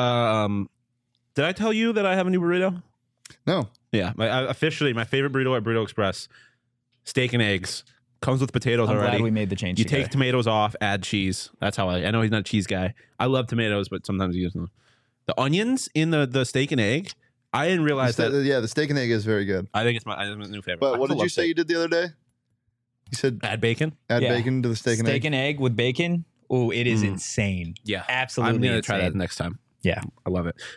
Did I tell you that I have a new burrito? No. Yeah. Officially, my favorite burrito at Burrito Express, steak and eggs. Comes with potatoes I'm already. glad we made the change You together. take tomatoes off, add cheese. That's how I know he's not a cheese guy. I love tomatoes, but sometimes he doesn't. The onions in the steak and egg, I didn't realize that. Yeah, the steak and egg is very good. I think it's my new favorite. But I what still did you love say you did the other day? You said Add bacon? add Yeah. bacon to the steak and egg. Steak and egg with bacon. Oh, it is insane. Yeah. Absolutely I'm going to try insane. that next time. Yeah. I love it.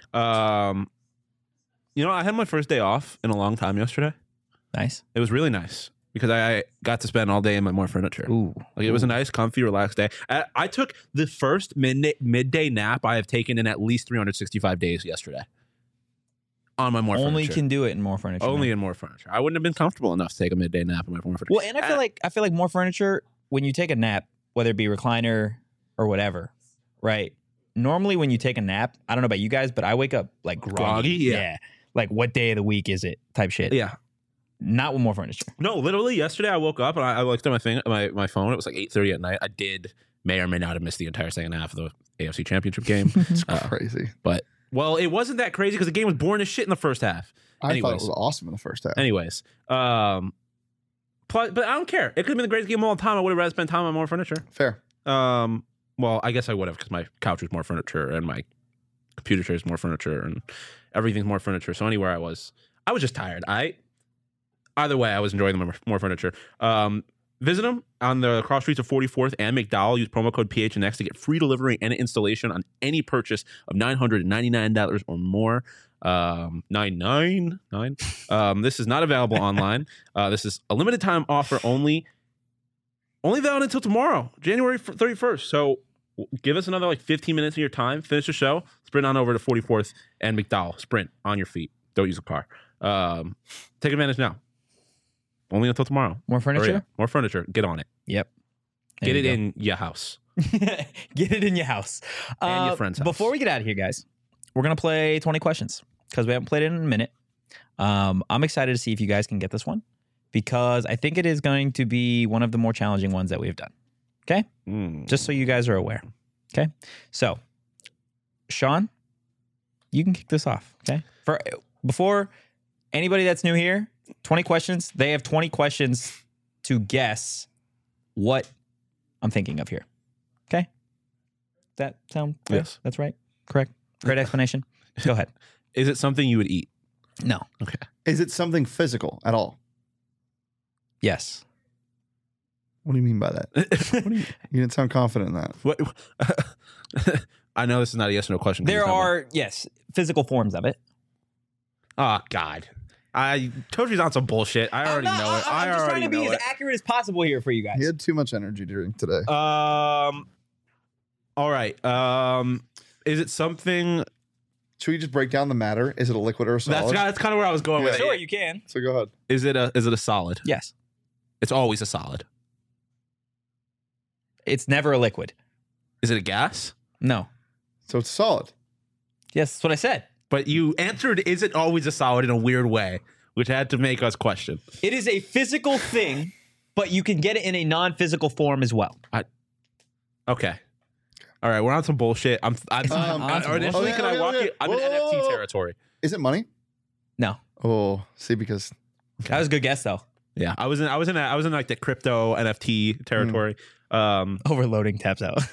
I had my first day off in a long time yesterday. Nice. It was really nice because I got to spend all day in my more furniture. Ooh. Like it was a nice, comfy, relaxed day. I took the first midday nap I have taken in at least 365 days yesterday. On my more Only furniture. can do it in more furniture. Only man. in more furniture. I wouldn't have been comfortable enough to take a midday nap in my more furniture. Well, and I feel like more furniture, when you take a nap, whether it be recliner or whatever, right? Normally when you take a nap, I don't know about you guys, but I wake up like groggy. Yeah. Like what day of the week is it type shit. Yeah. Not with more furniture. No, literally yesterday I woke up and I looked at my phone. It was like 8:30 at night. I may or may not have missed the entire second half of the AFC Championship game. It's crazy. But it wasn't that crazy because the game was boring as shit in the first half. I thought it Anyways. was awesome in the first half. Anyways, but I don't care. It could have been the greatest game of all time. I would have rather spent time on more furniture. Fair. Well, I guess I would have because my couch was more furniture and my computer chairs, more furniture, and everything's more furniture. So anywhere I was just tired. Either way, I was enjoying the more furniture. Visit them on the cross streets of 44th and McDowell. Use promo code PHNX to get free delivery and installation on any purchase of $999 or more. 999. This is not available online. This is a limited time offer only valid until tomorrow, January 31st. So give us another like 15 minutes of your time. Finish the show. Sprint on over to 44th and McDowell. Sprint on your feet. Don't use a car. Take advantage now. Only until tomorrow. More furniture? Hurry up. More furniture. Get on it. Yep. Get it in your house. Get it in your house. And your friend's house. Before we get out of here, guys, we're going to play 20 questions because we haven't played it in a minute. I'm excited to see if you guys can get this one because I think it is going to be one of the more challenging ones that we've done. Okay? Just so you guys are aware. Okay? So, Sean, you can kick this off. Okay? Before anybody that's new here, 20 questions. They have 20 questions to guess what I'm thinking of here. Okay? That sound good? Yes. That's right? Correct? Great explanation. Go ahead. Is it something you would eat? No. Okay. Is it something physical at all? Yes. What do you mean by that? You didn't sound confident in that. What? I know this is not a yes or no question. There are, yes, physical forms of it. Oh, God. I told you on some bullshit. I already know it. I'm just trying to be as accurate as possible here for you guys. He had too much energy during today. All right. Is it something? Should we just break down the matter? Is it a liquid or a solid? That's kind of where I was going with it. Sure, you can. So go ahead. Is it a solid? Yes. It's always a solid. It's never a liquid. Is it a gas? No. So it's solid. Yes, that's what I said. But you answered, is it always a solid in a weird way, which had to make us question. It is a physical thing, but you can get it in a non-physical form as well. Okay. All right, we're on some bullshit. I'm initially, can I walk you? I'm in NFT territory. Is it money? No. Oh, see, because That was a good guess, though. Yeah, I was in like the crypto NFT territory. Overloading taps out.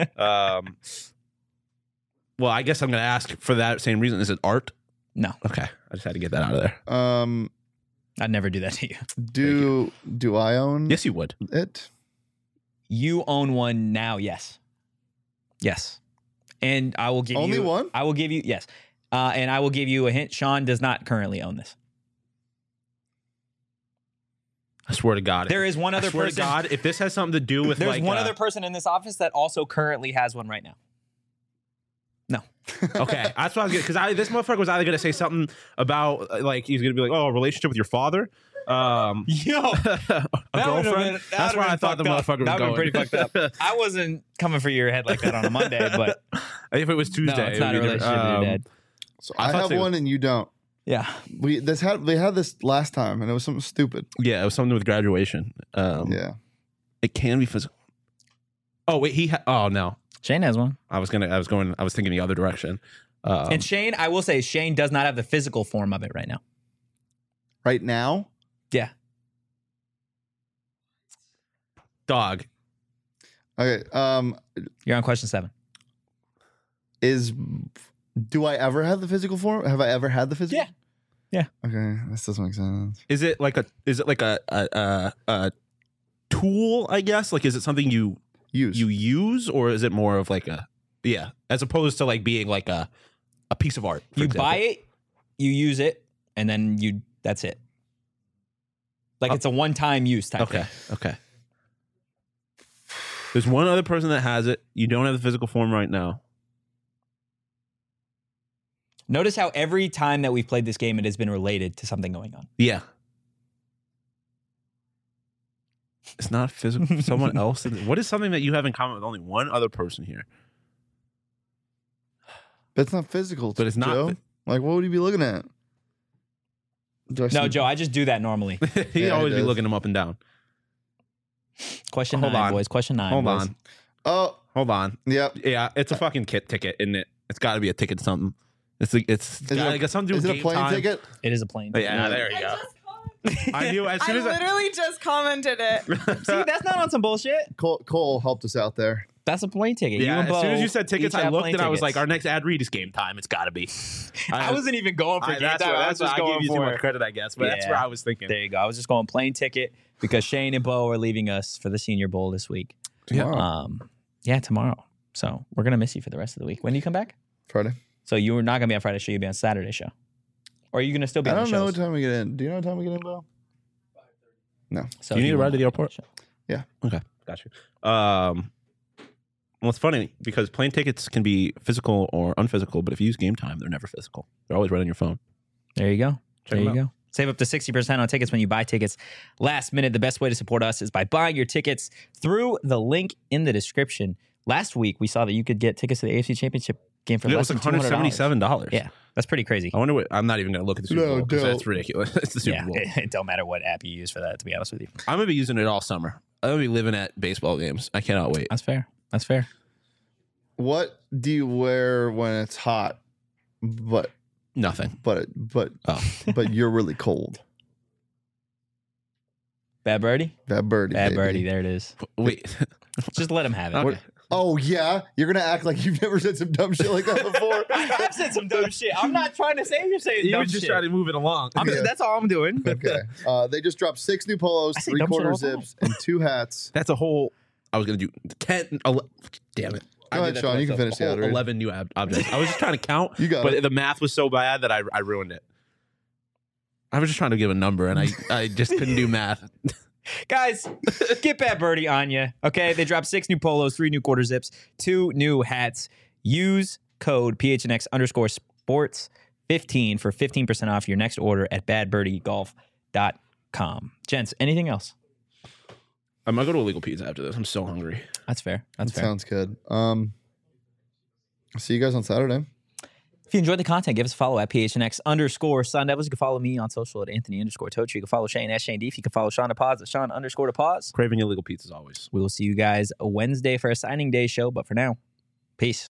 Well, I guess I'm going to ask for that same reason. Is it art? No. Okay, I just had to get that out of there. I'd never do that to you. Do I own Yes, you would. it? You own one now, yes. Yes. And I will give Only you... one? I will give you... Yes. And I will give you a hint. Sean does not currently own this. I swear to God. There is one other I swear person... to God, if this has something to do with There's one other person in this office that also currently has one right now. No. Okay, that's what I was getting, because this motherfucker was either going to say something about, like, he's going to be like, oh, a relationship with your father? Yo, a girlfriend? That's where I thought the motherfucker was going. That would have been pretty fucked up. I wasn't coming for your head like that on a Monday, but... If it was Tuesday. No, it's not a relationship with your dad. So I have one and you don't. Yeah. They had this last time and it was something stupid. Yeah, it was something with graduation. Yeah. It can be physical. Oh, wait, oh, no. Shane has one. I was thinking the other direction. And Shane, I will say, Shane does not have the physical form of it right now. Right now? Yeah. Dog. Okay. You're on question 7. Do I ever have the physical form? Have I ever had the physical? Yeah. Okay, this doesn't make sense. Is it like a tool, I guess? Like, is it something you use, or is it more of like as opposed to like being like a piece of art? You buy it, you use it, and then that's it. Like it's a one-time use type thing. Okay. There's one other person that has it. You don't have the physical form right now. Notice how every time that we've played this game, it has been related to something going on. Yeah. It's not physical. Someone else. What is something that you have in common with only one other person here? But it's not physical. But it's not. Joe. Like, what would you be looking at? No, Joe, I just do that normally. He'd always be looking him up and down. Question 9, boys. Question 9. Hold on. Oh. Hold on. Yep. Yeah, it's a fucking ticket, isn't it? It's got to be a ticket something. It's something to do with game a plane time. ticket? It is a plane ticket. Yeah, there you go. I knew as soon as I literally just commented it. See, that's not on some bullshit. Cole helped us out there. That's a plane ticket. Yeah, you and as soon as Bo you said tickets, each I have looked plane and I was tickets. like, our next ad read is game time. It's got to be. I wasn't even going for game time. I was just I going gave you too for much credit, I guess, but that's Yeah. where I was thinking. There you go. I was just going plane ticket because Shane and Bo are leaving us for the Senior Bowl this week. Tomorrow. Tomorrow. So we're gonna miss you for the rest of the week. When do you come back? Friday. So you were not gonna be on Friday show. You'll be on Saturday show. Or are you gonna still be? I on don't the know what shows? time we get in. Do you know what time we get in, Bo? No. So Do you need he a ride won't to the be on airport? show. Okay, got you. Well, it's funny because plane tickets can be physical or unphysical, but if you use game time, they're never physical. They're always right on your phone. There you go. Check there you them go. Save up to 60% on tickets when you buy tickets last minute. The best way to support us is by buying your tickets through the link in the description. Last week, we saw that you could get tickets to the AFC Championship game for Yeah, it less was than like $277. $177. Yeah, that's pretty crazy. I wonder what. I'm not even going to look at the Super No, Bowl because don't. that's ridiculous. It's the Super Yeah, Bowl. it don't matter what app you use for that, to be honest with you. I'm going to be using it all summer. I'm going to be living at baseball games. I cannot wait. That's fair. That's fair. What do you wear when it's hot, but Nothing. but Oh. but you're really cold? Bad birdie? Bad birdie. Bad baby. birdie. There it is. Wait. Just let him have it. Okay. Oh yeah, you're gonna act like you've never said some dumb shit like that before. I have said some dumb shit. I'm not trying to say you're saying You dumb were just shit. trying to move it along. Yeah. That's all I'm doing. Okay. They just dropped 6 new polos, I say dumb shit 3/4 all the time. zips, and 2 hats. That's a whole. I was going to do 10. Damn it. Go I ahead, did that Sean, to you can myself. finish the A whole ad read. 11 new objects. I was just trying to count, You got but it. the math was so bad that I ruined it. I was just trying to give a number, and I just couldn't do math. Guys, get Bad Birdie on you. Okay, they dropped 6 new polos, 3 new quarter zips, 2 new hats. Use code PHNX_sports15 for 15% off your next order at badbirdiegolf.com. Gents, anything else? I might go to Illegal Pizza after this. I'm so hungry. That's fair. That's That fair. sounds good. See you guys on Saturday. If you enjoyed the content, give us a follow at PHNX_Sun Devils. You can follow me on social at Anthony_Tochi. You can follow Shane at Shane Deef. You can follow Sean at Pause at Sean_Pause. Craving Illegal Pizza as always. We will see you guys Wednesday for a signing day show. But for now, peace.